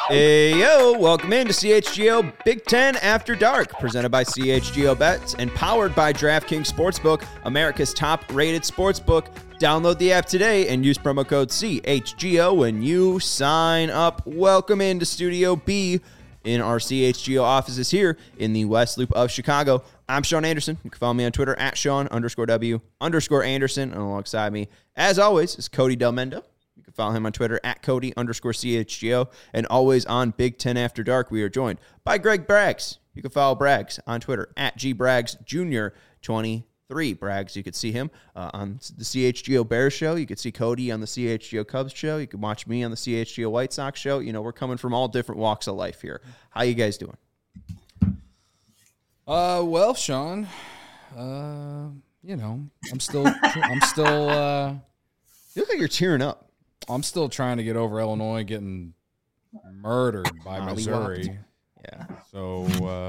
Hey, yo, welcome into CHGO Big Ten After Dark, presented by CHGO Bets and powered by DraftKings Sportsbook, America's top-rated sportsbook. Download the app today and use promo code CHGO when you sign up. Welcome into Studio B in our CHGO offices here in the West Loop of Chicago. I'm Sean Anderson. You can follow me on Twitter at Sean_W_Anderson. And alongside me, as always, is Cody Del Mendo. You can follow him on Twitter at Cody_CHGO. And always on Big Ten After Dark, we are joined by Greg Braggs. You can follow Braggs on Twitter at GBraggsJr23. Braggs, you could see him on the CHGO Bears show. You could see Cody on the CHGO Cubs show. You can watch me on the CHGO White Sox show. You know, we're coming from all different walks of life here. How you guys doing? Well, Sean, you know, I'm still, You look like you're tearing up. I'm still trying to get over Illinois getting murdered by Missouri. Yeah. So,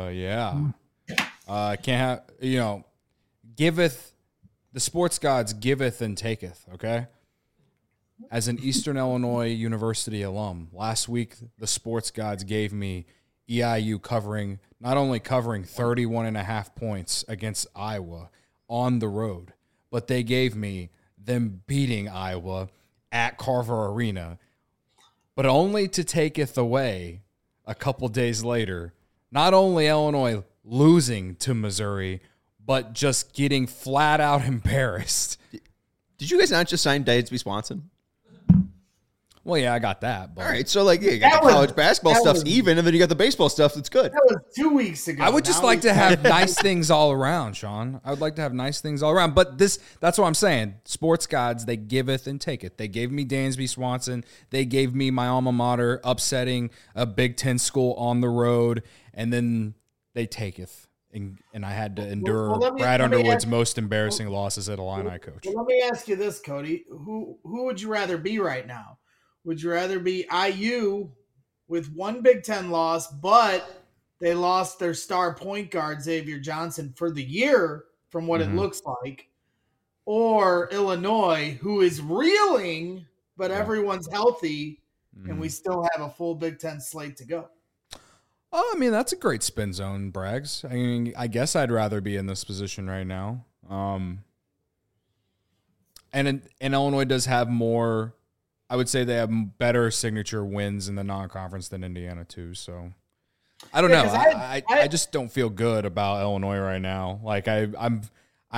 can't have, you know, giveth, the sports gods giveth and taketh, okay? As an Eastern Illinois University alum, last week the sports gods gave me EIU not only covering 31.5 points against Iowa on the road, but they gave me them beating Iowa at Carver Arena, but only to taketh away a couple days later, not only Illinois losing to Missouri, but just getting flat out embarrassed. Did you guys not just sign Dansby Swanson? Well, yeah, I got that. But All right, so you got the college basketball stuff's even, and then you got the baseball stuff that's good. That was 2 weeks ago. I would just like to have nice things all around, Sean. I would like to have nice things all around. But that's what I'm saying. Sports gods, they giveth and taketh. They gave me Dansby Swanson. They gave me my alma mater upsetting a Big Ten school on the road, and then they taketh. And I had to endure Brad Underwood's most embarrassing losses at Illini coach. Well, let me ask you this, Cody. Who would you rather be right now? Would you rather be IU with one Big Ten loss, but they lost their star point guard, Xavier Johnson, for the year from what it looks like, or Illinois, who is reeling, but everyone's healthy, and we still have a full Big Ten slate to go? Oh, I mean, that's a great spin zone, Braggs. I mean, I guess I'd rather be in this position right now. And Illinois does have more, I would say they have better signature wins in the non-conference than Indiana too. So I don't know. I just don't feel good about Illinois right now. Like I've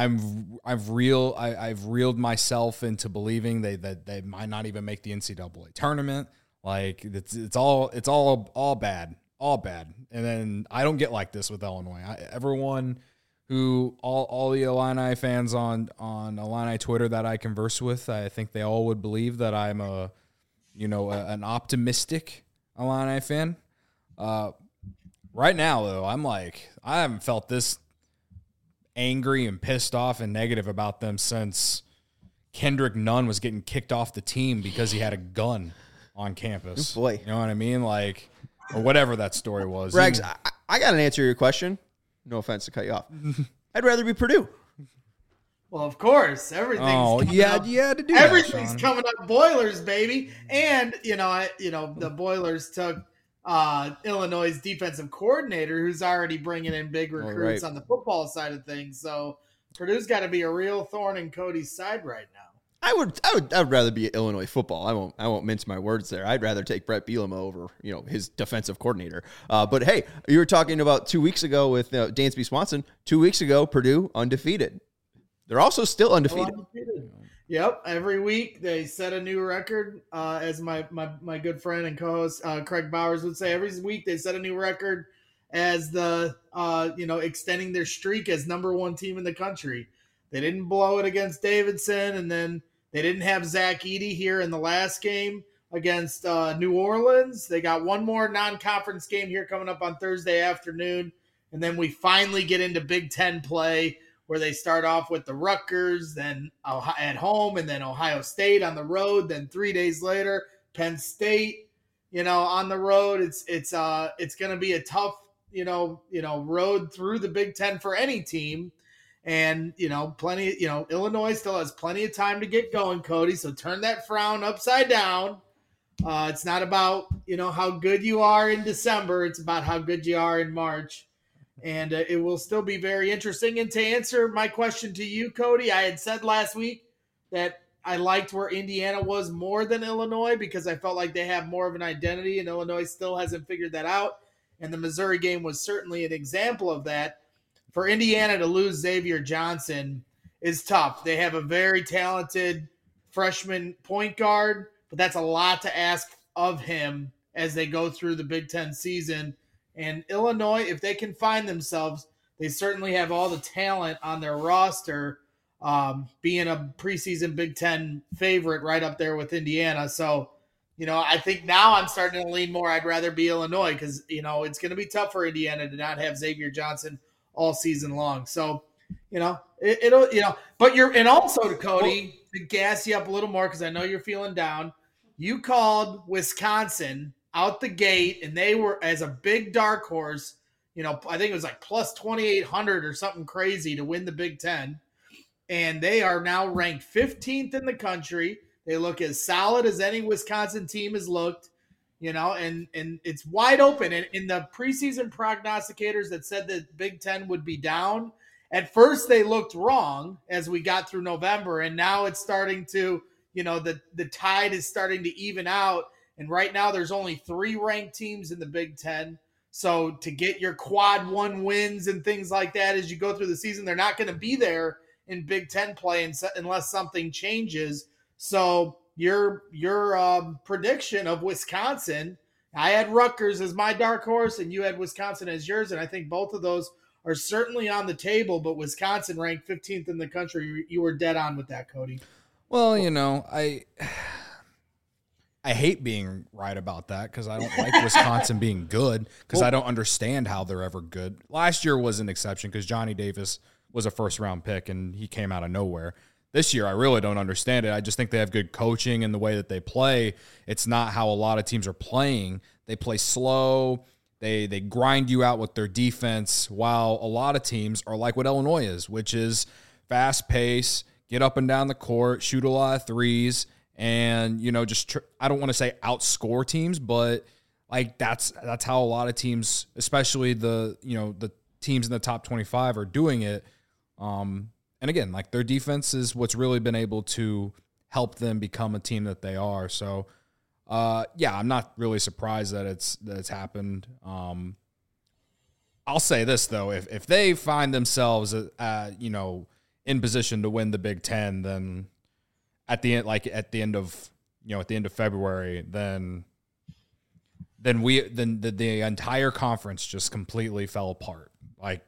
reeled myself into believing that they might not even make the NCAA tournament. Like it's all bad. All bad. And then I don't get like this with Illinois. Everyone who, all the Illini fans on Illini Twitter that I converse with, I think they all would believe that I'm an optimistic Illini fan. Right now, though, I haven't felt this angry and pissed off and negative about them since Kendrick Nunn was getting kicked off the team because he had a gun on campus. Oh boy. You know what I mean? Or whatever that story was. Braggs, I got an answer to your question. No offense to cut you off. I'd rather be Purdue. Well, of course, everything's coming up. You had to do everything's that, coming up. Boilers, baby, and the Boilers took Illinois' defensive coordinator, who's already bringing in big recruits on the football side of things. So Purdue's got to be a real thorn in Cody's side right now. I would rather be at Illinois football. I won't mince my words there. I'd rather take Brett Bielema over, his defensive coordinator. But hey, you were talking about 2 weeks ago with Dansby Swanson. 2 weeks ago, Purdue undefeated. They're also still undefeated. Yep. Every week they set a new record. As my good friend and co-host Craig Bowers would say, every week they set a new record as the extending their streak as number one team in the country. They didn't blow it against Davidson, and then they didn't have Zach Edey here in the last game against New Orleans. They got one more non-conference game here coming up on Thursday afternoon, and then we finally get into Big Ten play where they start off with the Rutgers, then at home, and then Ohio State on the road. Then 3 days later, Penn State, on the road. It's going to be a tough, road through the Big Ten for any team. And, Illinois still has plenty of time to get going, Cody. So turn that frown upside down. It's not about, how good you are in December. It's about how good you are in March. And it will still be very interesting. And to answer my question to you, Cody, I had said last week that I liked where Indiana was more than Illinois because I felt like they have more of an identity, and Illinois still hasn't figured that out. And the Missouri game was certainly an example of that. For Indiana to lose Xavier Johnson is tough. They have a very talented freshman point guard, but that's a lot to ask of him as they go through the Big Ten season. And Illinois, if they can find themselves, they certainly have all the talent on their roster, being a preseason Big Ten favorite right up there with Indiana. So, I think now I'm starting to lean more. I'd rather be Illinois because, it's going to be tough for Indiana to not have Xavier Johnson all season long. So, but and also to Cody, to gas you up a little more because I know you're feeling down, you called Wisconsin out the gate, and they were as a big dark horse. I think it was like plus 2,800 or something crazy to win the Big Ten. And they are now ranked 15th in the country. They look as solid as any Wisconsin team has looked, and it's wide open. And in the preseason prognosticators that said that Big Ten would be down, at first they looked wrong as we got through November. And now it's starting to, the tide is starting to even out. And right now there's only 3 ranked teams in the Big Ten. So to get your quad 1 wins and things like that as you go through the season, they're not going to be there in Big Ten play unless something changes. So your prediction of Wisconsin, I had Rutgers as my dark horse and you had Wisconsin as yours. And I think both of those are certainly on the table, but Wisconsin ranked 15th in the country. You were dead on with that, Cody. Well, I hate being right about that because I don't like Wisconsin being good because I don't understand how they're ever good. Last year was an exception because Johnny Davis was a first-round pick, and he came out of nowhere. This year, I really don't understand it. I just think they have good coaching and the way that they play. It's not how a lot of teams are playing. They play slow. They grind you out with their defense, while a lot of teams are like what Illinois is, which is fast pace, get up and down the court, shoot a lot of threes, and I don't want to say outscore teams, but like that's how a lot of teams, especially the teams in the top 25, are doing it. And again, like their defense is what's really been able to help them become a team that they are. So, I'm not really surprised that it's happened. I'll say this though, if they find themselves, in position to win the Big Ten, then at the end of February, then the entire conference just completely fell apart. Like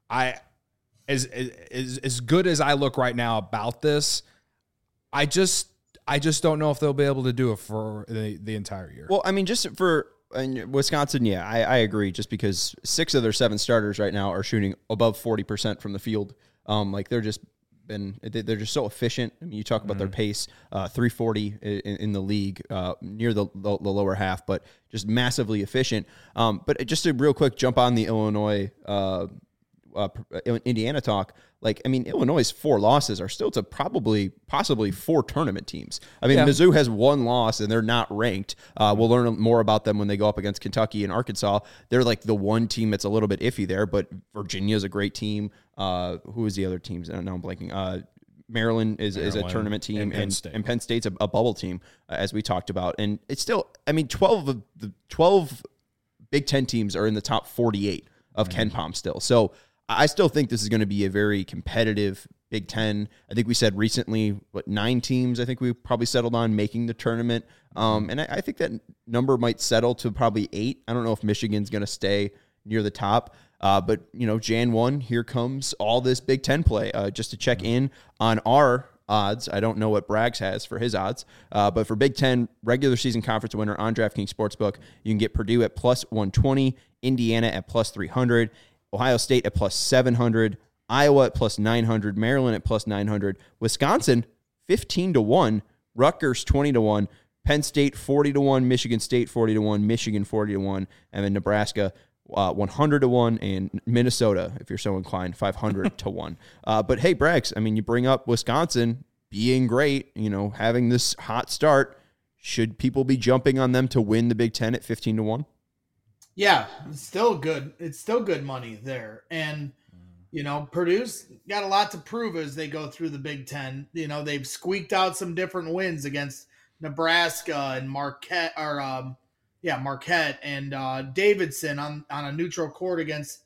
as good as I look right now about this, I just don't know if they'll be able to do it for the entire year. Well, I mean, just for Wisconsin, I agree. Just because 6 of their 7 starters right now are shooting above 40% from the field, they're just so efficient. I mean, you talk about their pace, 340 in the league, near the lower half, but just massively efficient. But just to real quick jump on the Illinois, Indiana talk. Illinois' 4 losses are still to possibly 4 tournament teams. Mizzou has 1 loss and they're not ranked. We'll learn more about them when they go up against Kentucky and Arkansas. They're like the one team that's a little bit iffy there, but Virginia's a great team. Who is the other teams? Now I'm blanking. Maryland is a tournament team, and Penn State's a bubble team, as we talked about. And it's still, 12 of the 12 Big Ten teams are in the top 48 of KenPom still. So I still think this is going to be a very competitive Big Ten. I think we said recently, 9 teams I think we probably settled on making the tournament. And I think that number might settle to probably 8. I don't know if Michigan's going to stay near the top. But, Jan 1, here comes all this Big Ten play. Just to check in on our odds. I don't know what Braggs has for his odds. But for Big Ten regular season conference winner on DraftKings Sportsbook, you can get Purdue at plus 120, Indiana at plus 300, Ohio State at plus 700, Iowa at plus 900, Maryland at plus 900, Wisconsin 15-1, Rutgers 20-1, Penn State 40-1, Michigan State 40-1, Michigan 40-1, and then Nebraska 100-1, and Minnesota, if you're so inclined, 500-1. But hey, Braggs, you bring up Wisconsin being great, having this hot start. should people be jumping on them to win the Big Ten at 15-1? Yeah, it's still good. It's still good money there. And, Purdue's got a lot to prove as they go through the Big Ten. They've squeaked out some different wins against Nebraska and Marquette and Davidson on a neutral court against,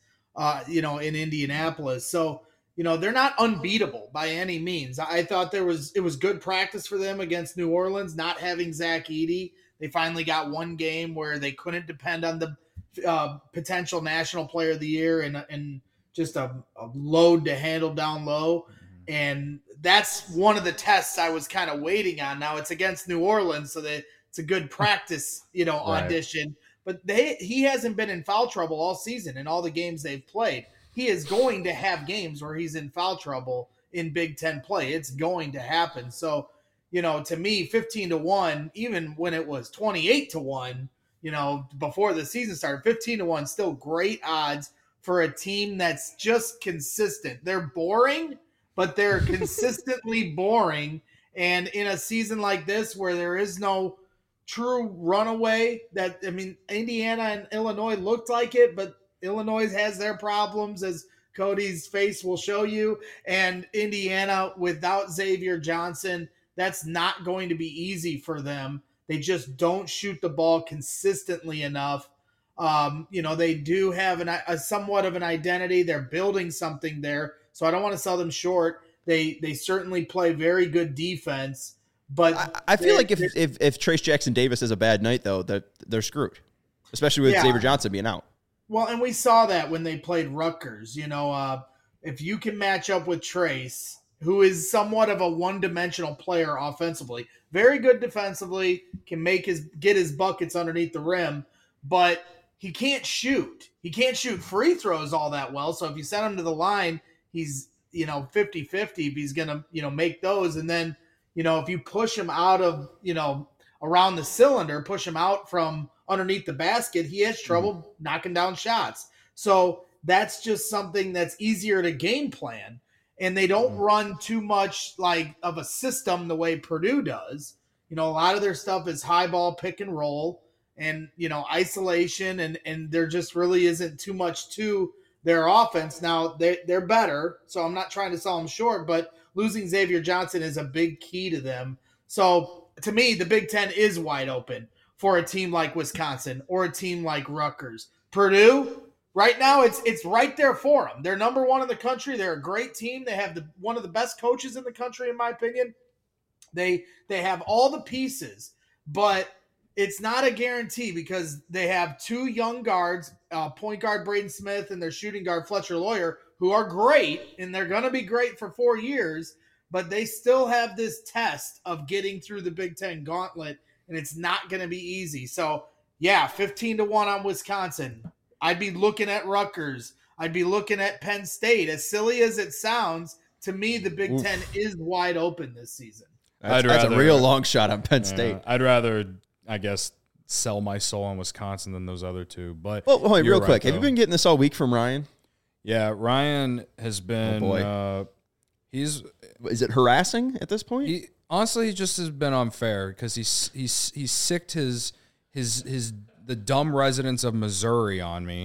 in Indianapolis. So, they're not unbeatable by any means. I thought it was good practice for them against New Orleans, not having Zach Edey. They finally got one game where they couldn't depend on the potential National Player of the Year and just a load to handle down low. And that's one of the tests I was kind of waiting on. Now it's against New Orleans, so that it's a good practice, audition. But he hasn't been in foul trouble all season in all the games they've played. He is going to have games where he's in foul trouble in Big Ten play. It's going to happen. So, to me, 15-1, even when it was 28-1, before the season started, 15-1, still great odds for a team that's just consistent. They're boring, but they're consistently boring. And in a season like this where there is no true runaway, Indiana and Illinois looked like it, but Illinois has their problems, as Cody's face will show you. And Indiana, without Xavier Johnson, that's not going to be easy for them. They just don't shoot the ball consistently enough. They do have a somewhat of an identity. They're building something there. So I don't want to sell them short. They certainly play very good defense. But I feel like if Trace Jackson Davis has a bad night, though, that they're screwed, especially with Xavier Johnson being out. Well, and we saw that when they played Rutgers. If you can match up with Trace, who is somewhat of a one-dimensional player offensively, very good defensively, can get his buckets underneath the rim, but he can't shoot. He can't shoot free throws all that well. So if you send him to the line, he's 50-50 if he's gonna make those. And then if you push him out of around the cylinder, push him out from underneath the basket, he has trouble knocking down shots. So that's just something that's easier to game plan. And they don't run too much like of a system the way Purdue does. A lot of their stuff is high ball, pick and roll, and isolation, and there just really isn't too much to their offense. Now they're better, so I'm not trying to sell them short, but losing Xavier Johnson is a big key to them. So to me, the Big Ten is wide open for a team like Wisconsin or a team like Rutgers. Purdue, right now, it's right there for them. They're number one in the country. They're a great team. They have one of the best coaches in the country, in my opinion. They have all the pieces, but it's not a guarantee because they have two young guards, point guard Braden Smith and their shooting guard Fletcher Loyer, who are great, and they're going to be great for 4 years, but they still have this test of getting through the Big Ten gauntlet, and it's not going to be easy. So, 15-1 on Wisconsin. I'd be looking at Rutgers. I'd be looking at Penn State. As silly as it sounds, to me, the Big Ten is wide open this season. That's a real long shot on Penn State. I'd rather, I guess, sell my soul on Wisconsin than those other two. But wait, real quick. Have you been getting this all week from Ryan? Yeah, Ryan has been. Oh boy. Is it harassing at this point? Honestly, he just has been unfair because he's sicked the dumb residents of Missouri on me.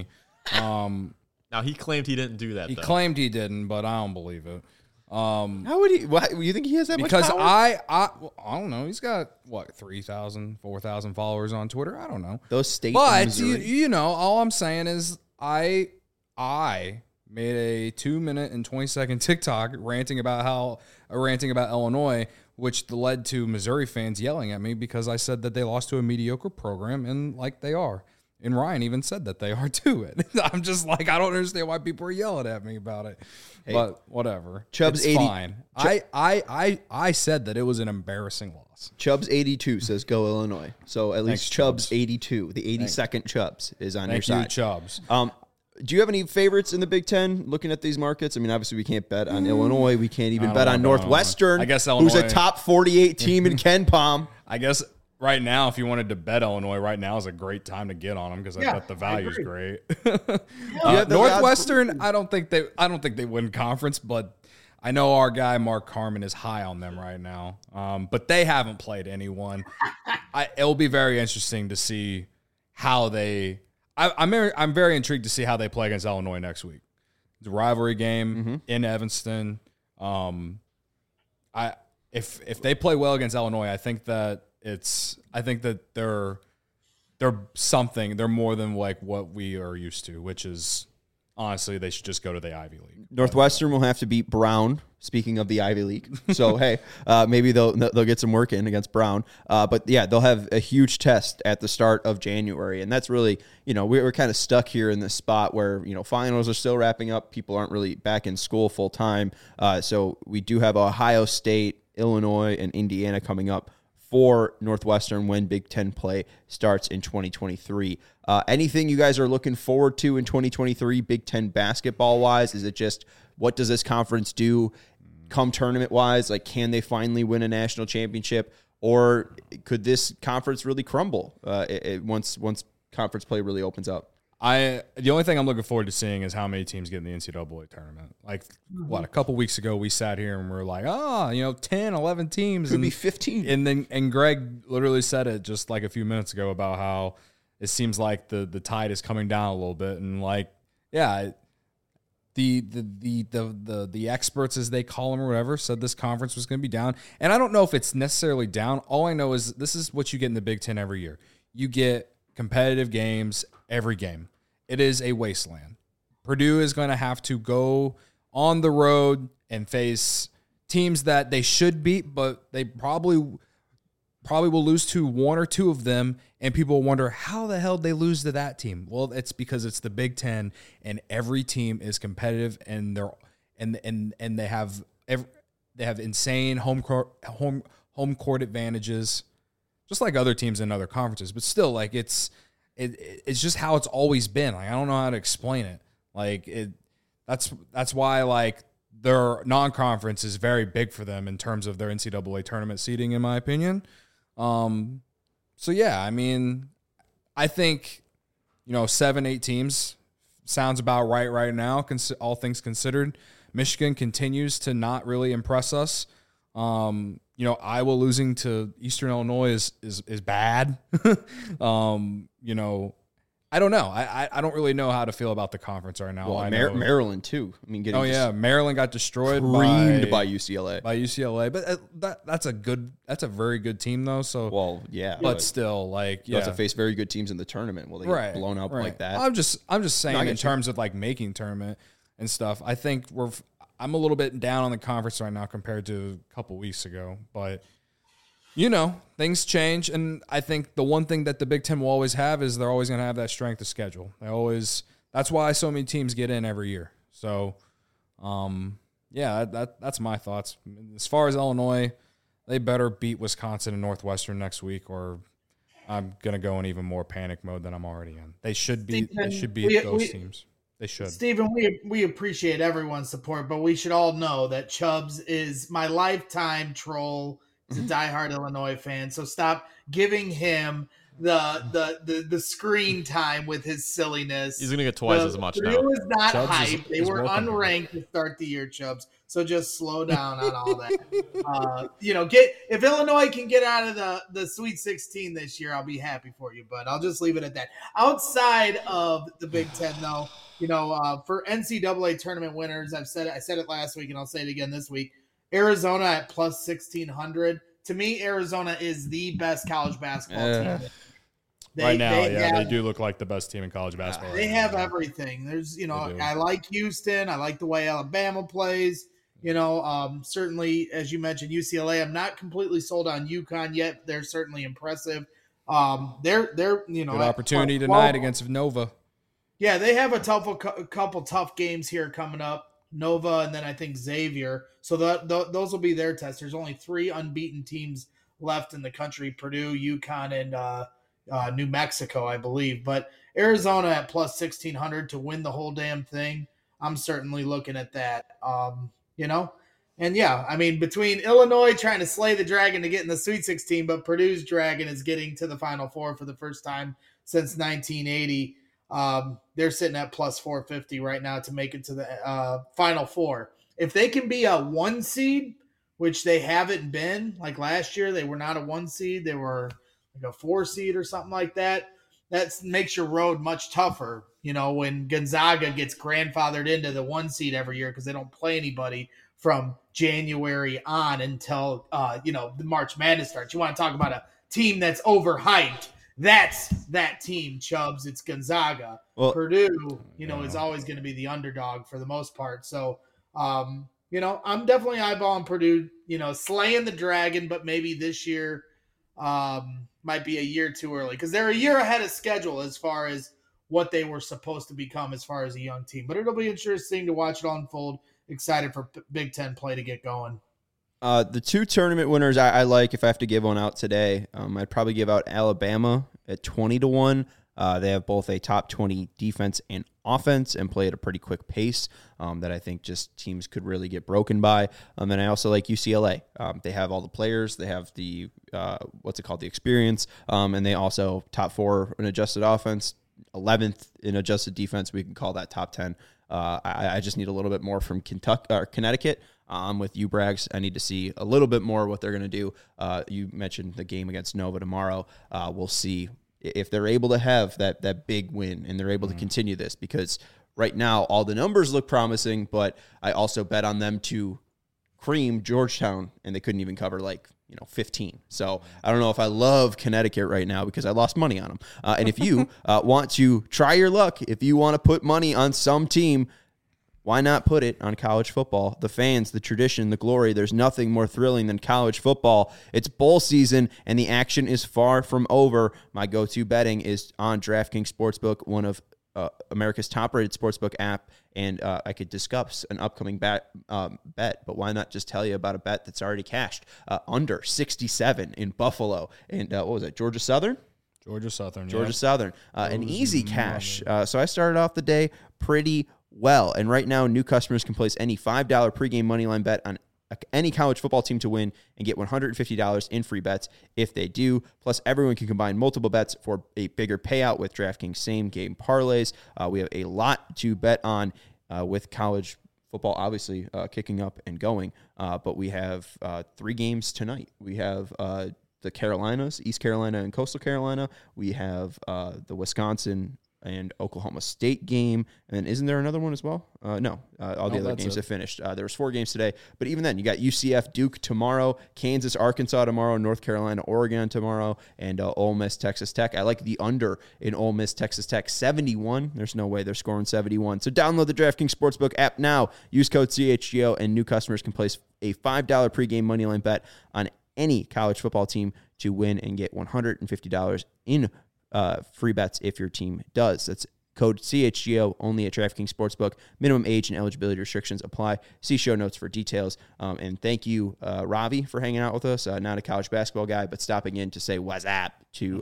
Now he claimed he didn't do that. He claimed he didn't, but I don't believe it. How would he? Why, you think he has that because much power? I don't know. He's got 3,000, 4,000 followers on Twitter. I don't know Those states. But all I'm saying is I made a 2-minute and 20-second TikTok ranting about Illinois, which led to Missouri fans yelling at me because I said that they lost to a mediocre program, and like they are. And Ryan even said that they are too. I'm just like, I don't understand why people are yelling at me about it. Hey, but whatever. Chubbs it's fine. I said that it was an embarrassing loss. Chubbs 82 says go Illinois. So at least Chubbs 82, the 82nd Chubbs is on your side. Thank you, Chubbs. Do you have any favorites in the Big Ten looking at these markets? I mean, obviously we can't bet on Illinois. We can't even bet on Northwestern, I guess Illinois, who's a top 48 team in Ken Palm. I guess right now, if you wanted to bet Illinois, right now is a great time to get on them because I bet the value is great. Northwestern, I don't think they win conference, but I know our guy Mark Harmon is high on them right now, but they haven't played anyone. It'll be very interesting to see how they. I'm very intrigued to see how they play against Illinois next week. It's a rivalry game in Evanston. If they play well against Illinois, I think that they're something. They're more than like what we are used to, which is honestly they should just go to the Ivy League. Northwestern will have to beat Brown. Speaking of the Ivy League, so hey, maybe they'll get some work in against Brown. But yeah, they'll have a huge test at the start of January, and that's really, we're kind of stuck here in this spot where finals are still wrapping up. People aren't really back in school full time, so we do have Ohio State, Illinois, and Indiana coming up for Northwestern when Big Ten play starts in 2023. Anything you guys are looking forward to in 2023, Big Ten basketball-wise? Is it just what does this conference do come tournament-wise? Like, can they finally win a national championship? Or could this conference really crumble once conference play really opens up? The only thing I'm looking forward to seeing is how many teams get in the NCAA tournament. Like, a couple weeks ago we sat here and we were like, 10, 11 teams. Could be 15. And Greg literally said it just like a few minutes ago about how it seems like the tide is coming down a little bit. And like, yeah, the experts, as they call them or whatever, said this conference was going to be down. And I don't know if it's necessarily down. All I know is this is what you get in the Big Ten every year. You get competitive games every game. It is a wasteland. Purdue is going to have to go on the road and face teams that they should beat, but they probably will lose to one or two of them, and people will wonder how the hell they lose to that team. Well, it's because it's the Big Ten, and every team is competitive, and they have insane home court advantages, just like other teams in other conferences. But still, like it's just how it's always been. Like, I don't know how to explain it. Like that's why like their non-conference is very big for them in terms of their NCAA tournament seeding, in my opinion. So yeah, I mean, I think 7-8 teams sounds about right now. All things considered, Michigan continues to not really impress us. Iowa losing to Eastern Illinois is bad. I don't know. I don't really know how to feel about the conference right now. Well, Maryland too. I mean, Maryland got destroyed by UCLA. But that's a very good team though. So but still, like, you have to face very good teams in the tournament. Will they get blown out like that? I'm just saying in terms of like making tournament and stuff. I think I'm a little bit down on the conference right now compared to a couple weeks ago, but things change, and I think the one thing that the Big Ten will always have is they're always going to have that strength of schedule. That's why so many teams get in every year. So, that's my thoughts. As far as Illinois, they better beat Wisconsin and Northwestern next week, or I'm going to go in even more panic mode than I'm already in. They should beat those teams. They should. Stephen, we appreciate everyone's support, but we should all know that Chubbs is my lifetime troll. He's a diehard Illinois fan, so stop giving him the screen time with his silliness. He's gonna get twice as much now. Purdue is not hype. They were unranked to start the year, Chubbs. So just slow down on all that. If Illinois can get out of the Sweet 16 this year, I'll be happy for you. But I'll just leave it at that. Outside of the Big Ten, though, for NCAA tournament winners, I said it last week, and I'll say it again this week. Arizona at plus 1,600. To me, Arizona is the best college basketball team. They do look like the best team in college basketball. They have everything. There's, I like Houston. I like the way Alabama plays. Certainly, as you mentioned, UCLA. I'm not completely sold on UConn yet. They're certainly impressive. They're good opportunity tonight against Nova. Yeah, they have a couple tough games here coming up. Nova, and then I think Xavier. So those will be their tests. There's only 3 unbeaten teams left in the country: Purdue, UConn, and New Mexico, I believe. But Arizona at plus 1,600 to win the whole damn thing. I'm certainly looking at that. And yeah, I mean, between Illinois trying to slay the dragon to get in the Sweet 16, but Purdue's dragon is getting to the Final Four for the first time since 1980. They're sitting at plus 450 right now to make it to the Final Four. if they can be a 1 seed, which they haven't been, like last year, they were not a 1 seed. They were like a 4 seed or something like that. That makes your road much tougher, when Gonzaga gets grandfathered into the 1 seed every year because they don't play anybody from January on until, the March Madness starts. You want to talk about a team that's overhyped. That's that team, Chubbs. It's Gonzaga. Well, Purdue, is always going to be the underdog for the most part. So, I'm definitely eyeballing Purdue, slaying the dragon, but maybe this year might be a year too early because they're a year ahead of schedule as far as what they were supposed to become as far as a young team. But it'll be interesting to watch it unfold. Excited for Big Ten play to get going. The 2 tournament winners I like, if I have to give one out today, I'd probably give out Alabama at 20-1. They have both a top 20 defense and offense and play at a pretty quick pace that I think just teams could really get broken by. And I also like UCLA. They have all the players. They have the, the experience. And they also top 4 in adjusted offense, 11th in adjusted defense. We can call that top 10. I just need a little bit more from Connecticut. With you, Braggs, I need to see a little bit more what they're going to do. You mentioned the game against Nova tomorrow. We'll see if they're able to have that big win and they're able to continue this, because right now all the numbers look promising, but I also bet on them to cream Georgetown and they couldn't even cover 15. So I don't know if I love Connecticut right now because I lost money on them. And if you want to try your luck, if you want to put money on some team, why not put it on college football? The fans, the tradition, the glory. There's nothing more thrilling than college football. It's bowl season, and the action is far from over. My go-to betting is on DraftKings Sportsbook, one of America's top-rated sportsbook app, and I could discuss an upcoming bet, but why not just tell you about a bet that's already cashed? Under 67 in Buffalo. And what was it, Georgia Southern? Georgia Southern. An easy cash. So I started off the day pretty well. And right now, new customers can place any $5 pregame moneyline bet on any college football team to win and get $150 in free bets if they do. Plus, everyone can combine multiple bets for a bigger payout with DraftKings same-game parlays. We have a lot to bet on with college football, obviously, kicking up and going. But we have 3 games tonight. We have the Carolinas, East Carolina and Coastal Carolina. We have the Wisconsin and Oklahoma State game. And isn't there another one as well? No, all the other games have finished. There was 4 games today. But even then, you got UCF Duke tomorrow, Kansas, Arkansas tomorrow, North Carolina, Oregon tomorrow, and Ole Miss, Texas Tech. I like the under in Ole Miss, Texas Tech, 71. There's no way they're scoring 71. So download the DraftKings Sportsbook app now. Use code CHGO, and new customers can place a $5 pregame moneyline bet on any college football team to win and get $150 in free bets if your team does. That's code CHGO only at DraftKings Sportsbook. Minimum age and eligibility restrictions apply. See show notes for details. And thank you, Ravi, for hanging out with us. Not a college basketball guy, but stopping in to say what's up to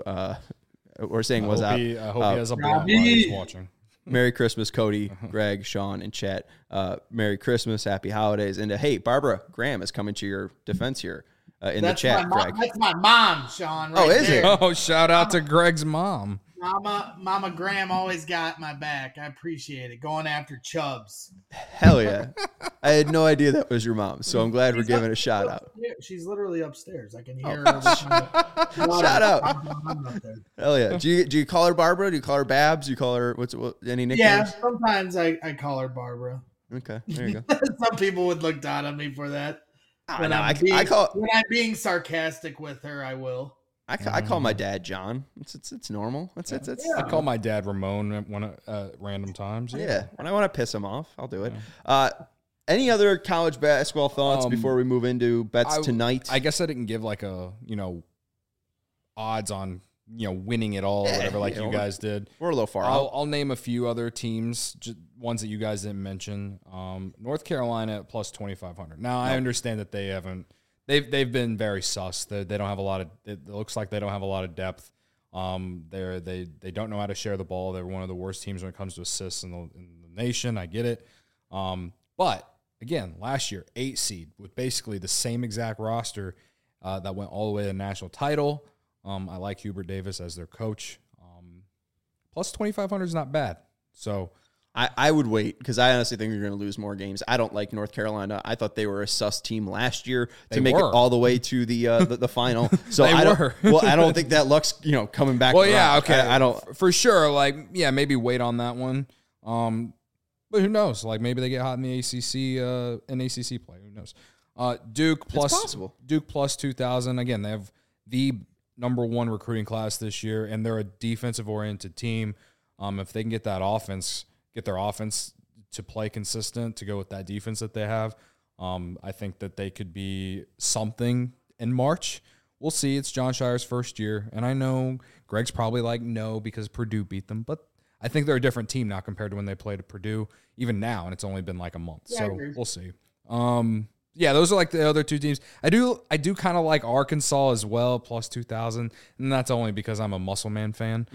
or saying what's up. I hope he has a blonde while he's watching. Merry Christmas, Cody, Greg, Sean, and Chet. Merry Christmas, Happy Holidays. And hey, Barbara Graham is coming to your defense here. In the chat, Greg. That's my mom, Sean. Right is there. it? Oh, shout out to Greg's mom. Mama Graham always got my back. I appreciate it. Going after Chubbs. Hell yeah. I had no idea that was your mom, so I'm glad we're giving a shout out. She's literally upstairs. I can hear her. Shout out. Hell yeah. Do you call her Barbara? Do you call her Babs? Do you call her any nicknames? Yeah, sometimes I call her Barbara. Okay, there you go. Some people would look down on me for that. When I'm being sarcastic with her, I will. I call my dad John. It's normal. I call my dad Ramon at random times. Yeah, when I want to piss him off, I'll do it. Any other college basketball thoughts before we move into bets tonight? I guess I didn't give odds on winning it all or whatever you guys did. We're a little far out. I'll name a few other teams, ones that you guys didn't mention. North Carolina at plus 2,500. Now I understand that they've been very sus. They don't have a lot of. It looks like they don't have a lot of depth. They don't know how to share the ball. They're one of the worst teams when it comes to assists in the nation. I get it. But again, last year 8 seed with basically the same exact roster that went all the way to the national title. I like Hubert Davis as their coach. Plus 2,500 is not bad. So I would wait because I honestly think they're going to lose more games. I don't like North Carolina. I thought they were a sus team last year to make it all the way to the final. So I don't think that luck's coming back. Well, around. yeah, okay. I don't for sure. Like, yeah, maybe wait on that one. But who knows? Like maybe they get hot in the ACC, in ACC play. Who knows? Duke plus 2,000. Again, they have the number 1 recruiting class this year, and they're a defensive oriented team. If they can get their offense to play consistent, to go with that defense that they have, I think that they could be something in March. We'll see. It's John Shire's first year, and I know Greg's probably like, no, because Purdue beat them, but I think they're a different team now compared to when they played at Purdue, even now, and it's only been like a month. Yeah, so we'll see. Yeah, those are like the other 2 teams. I do kind of like Arkansas as well, plus 2,000, and that's only because I'm a Musselman fan.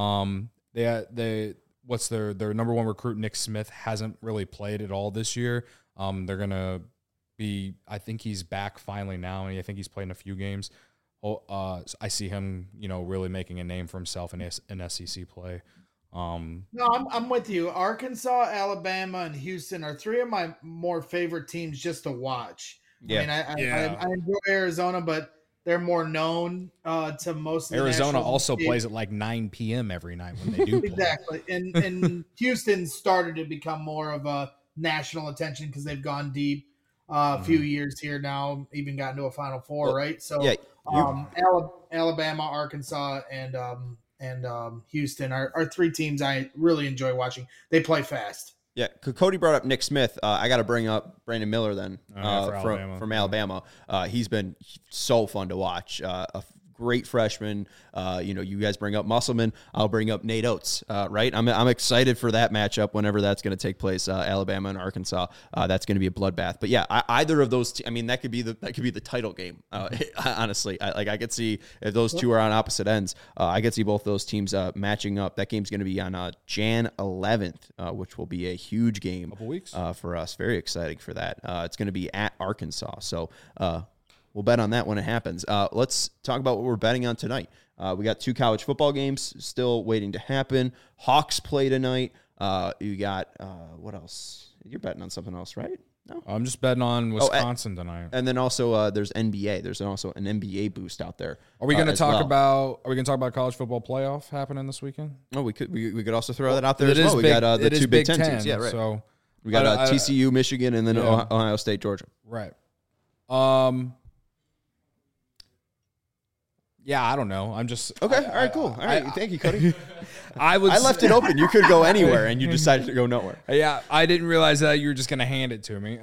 What's their number 1 recruit, Nick Smith, hasn't really played at all this year. They're gonna be. I think he's back finally now, and I think he's played in a few games. I see him, really making a name for himself in SEC play. No, I'm with you. Arkansas, Alabama, and Houston are 3 of my more favorite teams just to watch. Yeah. I enjoy Arizona, but they're more known to most of the Arizona also plays at like 9 p.m. every night when they do play. Exactly. And Houston started to become more of a national attention because they've gone deep a few years here now, even gotten to a Final Four, right? So Alabama, Arkansas, and Houston are 3 teams I really enjoy watching. They play fast. Yeah, Cody brought up Nick Smith. I got to bring up Brandon Miller then from Alabama. He's been so fun to watch. A great freshman. You guys bring up Musselman. I'll bring up Nate Oates. Right? I'm excited for that matchup whenever that's going to take place. Alabama and Arkansas. That's going to be a bloodbath. But yeah, either of those. That could be the title game. Honestly, I could see if those 2 are on opposite ends. I could see both those teams matching up. That game's going to be on Jan 11th, which will be a huge game. Couple weeks for us. Very exciting for that. It's going to be at Arkansas. So. We'll bet on that when it happens. Let's talk about what we're betting on tonight. We got 2 college football games still waiting to happen. Hawks play tonight. You got what else? You're betting on something else, right? No, I'm just betting on Wisconsin tonight. And then also there's NBA. There's also an NBA boost out there. Are we going to talk about? Are we going to talk about college football playoff happening this weekend? Oh, we could also throw that out there as well. We got the 2 Big Ten teams. Yeah, right. So we got TCU, Michigan, and then Ohio State, Georgia. Right. Yeah, I don't know. I'm just okay. All right, cool. All right, thank you, Cody. I left it open. You could go anywhere, and you decided to go nowhere. Yeah, I didn't realize that you were just going to hand it to me.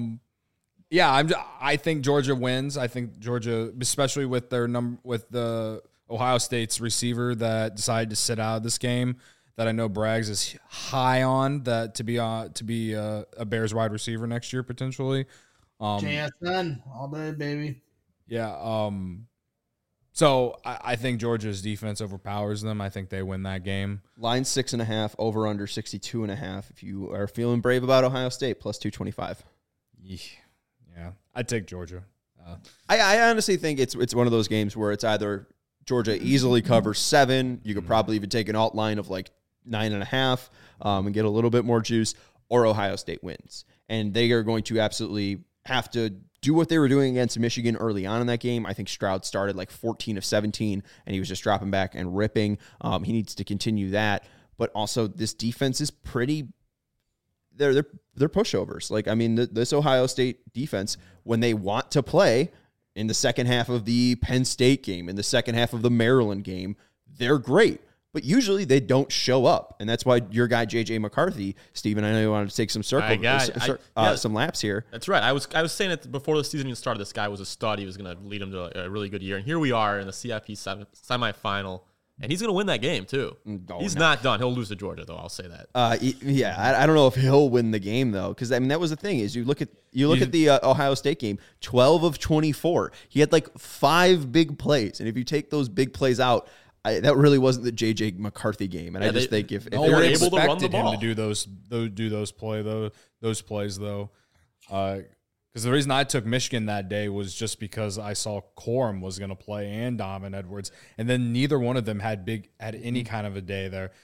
I think Georgia wins. I think Georgia, especially with the Ohio State's receiver that decided to sit out of this game, that I know Braggs is high on, that to be a Bears wide receiver next year potentially. JSN all day, baby. Yeah. So I think Georgia's defense overpowers them. I think they win that game. Line 6.5, over under 62.5. If you are feeling brave about Ohio State, plus 225. Yeah, I'd take Georgia. I honestly think it's one of those games where it's either Georgia easily covers 7. You could probably even take an alt line of like 9.5 and get a little bit more juice, or Ohio State wins. And they are going to absolutely have to do what they were doing against Michigan early on in that game. I think Stroud started like 14 of 17, and he was just dropping back and ripping. He needs to continue that. But also, this defense is pretty. They're pushovers. This Ohio State defense, when they want to play in the second half of the Penn State game, in the second half of the Maryland game, they're great. But usually they don't show up, and that's why your guy JJ McCarthy, Steven, I know you wanted to take some some laps here. That's right. I was saying it before the season even started. This guy was a stud. He was going to lead him to a really good year, and here we are in the CIP semifinal, and he's going to win that game too. He's not done. He'll lose to Georgia, though. I'll say that. I don't know if he'll win the game though, because that was the thing is you look at the Ohio State game, 12 of 24. He had like 5 big plays, and if you take those big plays out. That really wasn't the JJ McCarthy game, and I just think if they were able to run the ball, him to do those plays though, because the reason I took Michigan that day was just because I saw Corum was going to play and Donovan Edwards, and then neither one of them had any kind of a day there.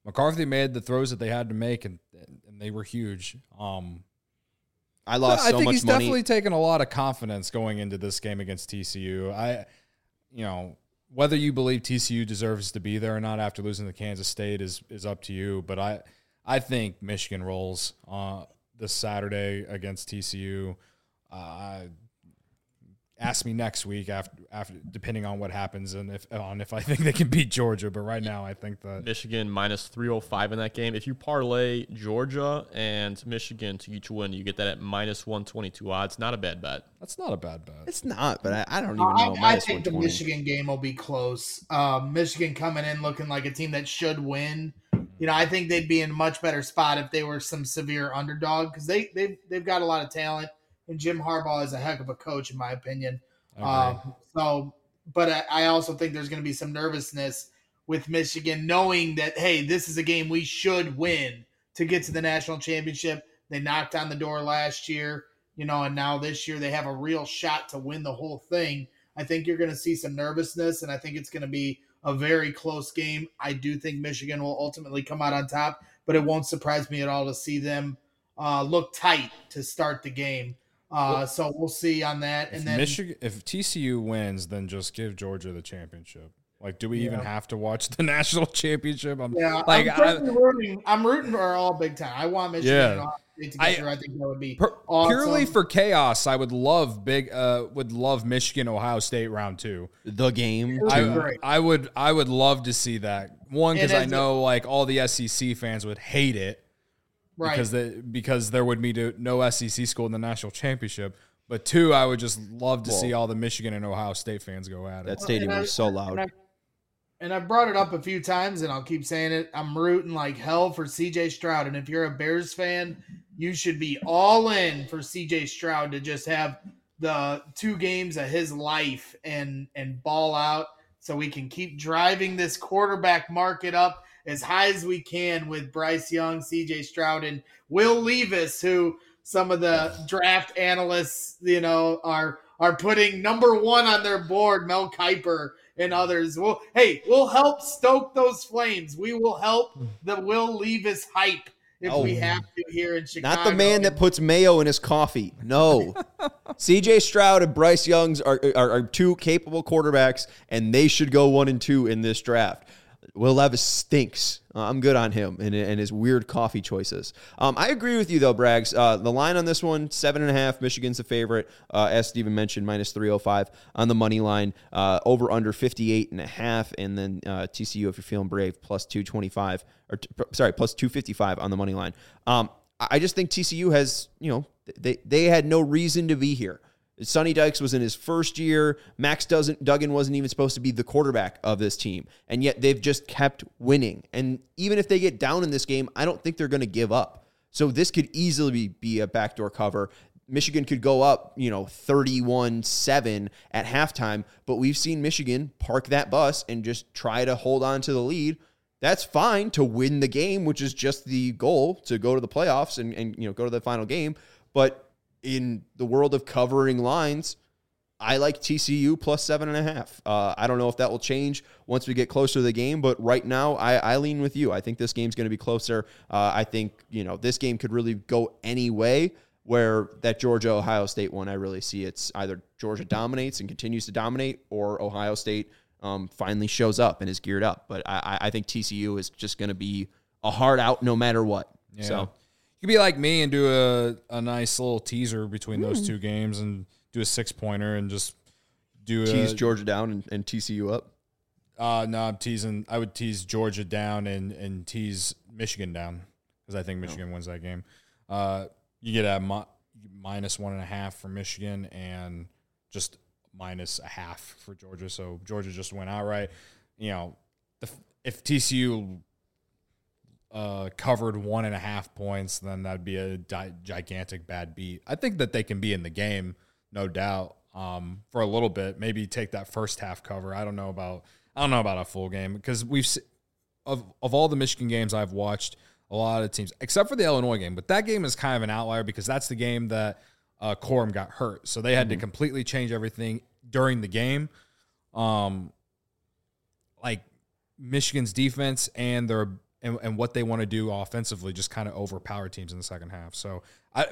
McCarthy made the throws that they had to make, and they were huge. I lost so much money. I think he's definitely taken a lot of confidence going into this game against TCU. Whether you believe TCU deserves to be there or not after losing to Kansas State is up to you. But I think Michigan rolls this Saturday against TCU. Ask me next week after depending on what happens and if I think they can beat Georgia. But right now, I think that Michigan minus 305 in that game. If you parlay Georgia and Michigan to each win, you get that at minus 122 odds. Not a bad bet. That's not a bad bet. It's not, but I don't even know. I think the Michigan game will be close. Michigan coming in looking like a team that should win. I think they'd be in a much better spot if they were some severe underdog because they've got a lot of talent. And Jim Harbaugh is a heck of a coach, in my opinion. But I also think there's going to be some nervousness with Michigan, knowing that, hey, this is a game we should win to get to the national championship. They knocked on the door last year, and now this year they have a real shot to win the whole thing. I think you're going to see some nervousness, and I think it's going to be a very close game. I do think Michigan will ultimately come out on top, but it won't surprise me at all to see them look tight to start the game. So we'll see on that. And then if TCU wins, then just give Georgia the championship. Like, do we even have to watch the national championship? I'm rooting for all Big Ten. I want Michigan and Ohio State to get through. I think that would be awesome. Purely for chaos. I would love Michigan Ohio State round 2. The game. I would love to see that. One, because I know like all the SEC fans would hate it. Right. Because there would be no SEC school in the national championship. But 2, I would just love to see all the Michigan and Ohio State fans go at it. That stadium was so loud. And I've brought it up a few times, and I'll keep saying it. I'm rooting like hell for C.J. Stroud. And if you're a Bears fan, you should be all in for C.J. Stroud to just have the 2 games of his life and ball out so we can keep driving this quarterback market up as high as we can with Bryce Young, C.J. Stroud, and Will Levis, who some of the draft analysts, are putting number 1 on their board, Mel Kiper and others. We'll help stoke those flames. We will help the Will Levis hype if we have to here in Chicago. Not the man that puts mayo in his coffee. No. C.J. Stroud and Bryce Young are 2 capable quarterbacks, and they should go 1 and 2 in this draft. Will Levis stinks. I'm good on him and his weird coffee choices. I agree with you, though, Braggs. The line on this one, 7.5. Michigan's the favorite. As Steven mentioned, minus 305 on the money line. Over under 58.5. And then TCU, if you're feeling brave, plus 225. Plus 255 on the money line. I just think TCU has, they had no reason to be here. Sonny Dykes was in his first year. Max Duggan wasn't even supposed to be the quarterback of this team. And yet they've just kept winning. And even if they get down in this game, I don't think they're going to give up. So this could easily be a backdoor cover. Michigan could go up, 31-7 at halftime. But we've seen Michigan park that bus and just try to hold on to the lead. That's fine to win the game, which is just the goal, to go to the playoffs and go to the final game. But in the world of covering lines, I like TCU plus 7.5. I don't know if that will change once we get closer to the game, but right now I lean with you. I think this game's going to be closer. I think, this game could really go any way, where that Georgia-Ohio State one, I really see it's either Georgia dominates and continues to dominate, or Ohio State finally shows up and is geared up. But I think TCU is just going to be a hard out no matter what. Yeah. So you could be like me and do a nice little teaser between those 2 games and do a 6-pointer and just tease Georgia down and TCU up. No, I'm teasing. I would tease Georgia down and tease Michigan down because I think Michigan wins that game. You get a minus 1.5 for Michigan and just minus a half for Georgia. So Georgia just went outright. If TCU covered 1.5 points, then that'd be a gigantic bad beat. I think that they can be in the game, no doubt, for a little bit. Maybe take that first half cover. I don't know about a full game because of all the Michigan games I've watched, a lot of teams, except for the Illinois game, but that game is kind of an outlier because that's the game that Corum got hurt, so they had to completely change everything during the game. Like Michigan's defense and and what they want to do offensively just kind of overpower teams in the second half. So,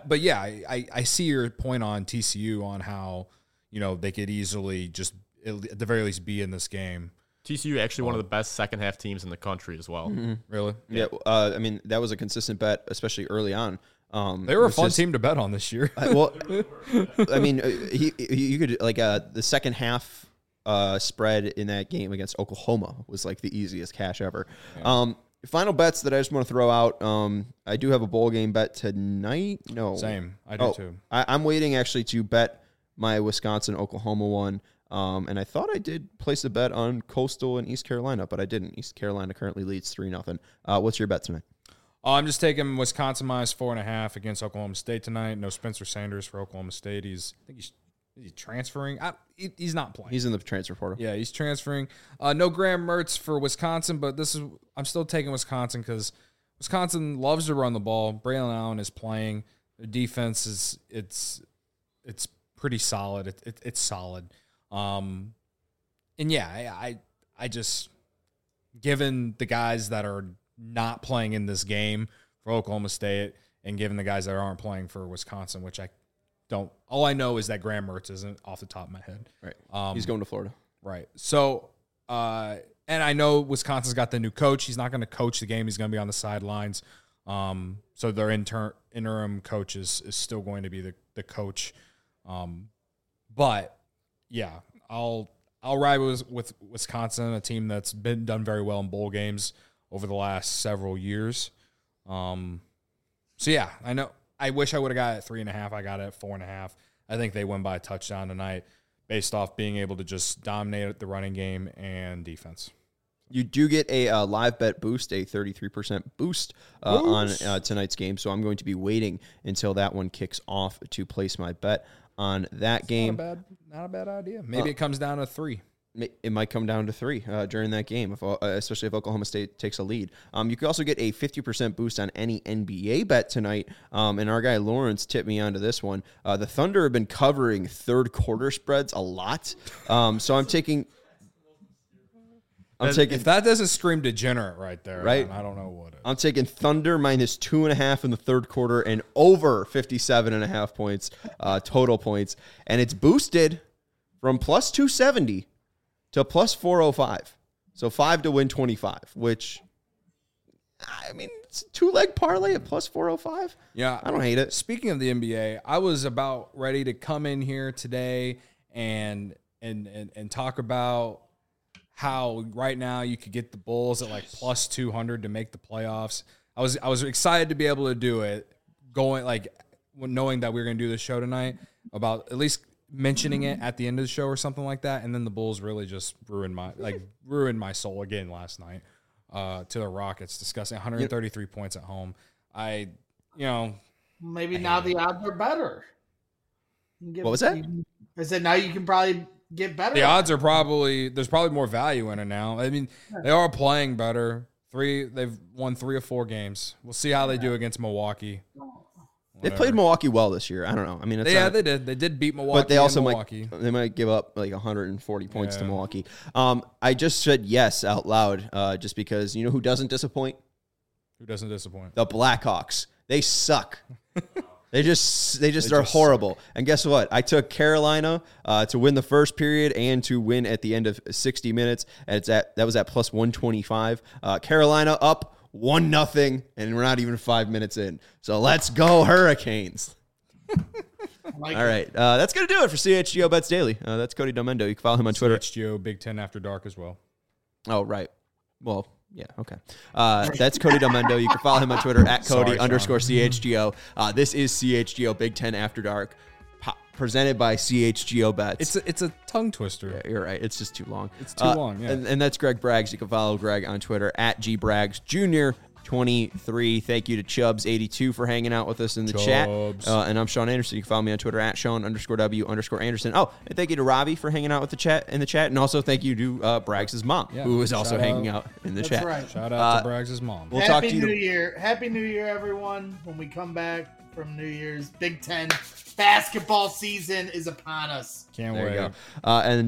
I see your point on TCU on how, they could easily just at the very least be in this game. TCU actually one of the best second half teams in the country as well. Mm-hmm. Really? Yeah. I mean, that was a consistent bet, especially early on. They were a fun team to bet on this year. Well, I mean, you could the second half spread in that game against Oklahoma was like the easiest cash ever. Yeah. Final bets that I just want to throw out. I do have a bowl game bet tonight. No, same. I do too. I'm waiting actually to bet my Wisconsin-Oklahoma one. And I thought I did place a bet on Coastal and East Carolina, but I didn't. East Carolina currently leads 3-0. What's your bet tonight? I'm just taking Wisconsin minus 4.5 against Oklahoma State tonight. No Spencer Sanders for Oklahoma State. Is he transferring? He's not playing. He's in the transfer portal. Yeah, he's transferring. No Graham Mertz for Wisconsin, but I'm still taking Wisconsin because Wisconsin loves to run the ball. Braylon Allen is playing. Their defense it's pretty solid. It's solid. And yeah, I just, given the guys that are not playing in this game for Oklahoma State and given the guys that aren't playing for Wisconsin, which all I know is that Graham Mertz isn't off the top of my head. Right. He's going to Florida. Right. So, and I know Wisconsin's got the new coach. He's not going to coach the game. He's going to be on the sidelines. So their interim coach is still going to be the coach. But yeah, I'll ride with Wisconsin, a team that's been done very well in bowl games over the last several years. So yeah, I know. I wish I would have got it at 3.5. I got it at 4.5. I think they win by a touchdown tonight, based off being able to just dominate the running game and defense. You do get a live bet boost, a 33% boost on tonight's game. So I'm going to be waiting until that one kicks off to place my bet on that game. Not a bad idea. Maybe it comes down to 3. It might come down to 3 during that game, especially if Oklahoma State takes a lead. You could also get a 50% boost on any NBA bet tonight. And our guy Lawrence tipped me onto this one. The Thunder have been covering third quarter spreads a lot. So I'm taking. If that doesn't scream degenerate right there, right? I don't know what it is. I'm taking Thunder minus 2.5 in the third quarter and over 57.5 points, total points. And it's boosted from plus 270 to plus 405. So 5 to win 25, which, I mean, it's a 2-leg parlay at plus 405. Yeah. I don't hate it. Speaking of the NBA, I was about ready to come in here today and talk about how right now you could get the Bulls at like plus 200 to make the playoffs. I was excited to be able to do it, knowing that we were going to do this show tonight, about at least mentioning it at the end of the show or something like that. And then the Bulls really just ruined my soul again last night to the Rockets, discussing 133 points at home. Maybe now the odds are better. What was that? I said now you can probably get better. The odds are there's probably more value in it now. I mean, they are playing better. They've won 3 or 4 games. We'll see how they do against Milwaukee. They played Milwaukee well this year. I don't know. I mean, they did. They did beat Milwaukee. But they also might give up like 140 points to Milwaukee. I just said yes out loud, just because you know who doesn't disappoint? Who doesn't disappoint? The Blackhawks. They suck. They just are horrible. And guess what? I took Carolina to win the first period and to win at the end of 60 minutes. And that was at plus 125. Carolina up 1-0, and we're not even 5 minutes in. So let's go Hurricanes. All right. That's going to do it for CHGO Bets Daily. That's Cody Domendo. You can follow him on Twitter. CHGO Big Ten After Dark as well. Oh, right. Well, yeah, okay. That's Cody Domendo. You can follow him on Twitter at Cody_CHGO. This is CHGO Big Ten After Dark, presented by CHGO Bets. It's a tongue twister. Yeah, you're right. It's just too long. It's too long, yeah. And that's Greg Braggs. You can follow Greg on Twitter at GBraggsJr23. Thank you to Chubbs82 for hanging out with us in the chat. And I'm Sean Anderson. You can follow me on Twitter at Sean_W_Anderson. Oh, and thank you to Robbie for hanging out with in the chat. And also thank you to Braggs' mom, who is also hanging out in the chat. Right. Shout out to Braggs' mom. We'll talk to you. Happy New Year, everyone. When we come back from New Year's, Big Ten basketball season is upon us. Can't There wait. you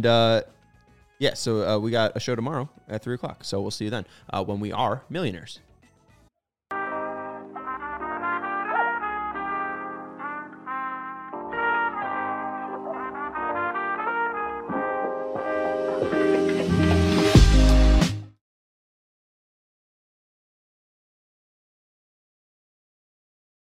go. So we got a show tomorrow at 3 o'clock. So we'll see you then when we are millionaires.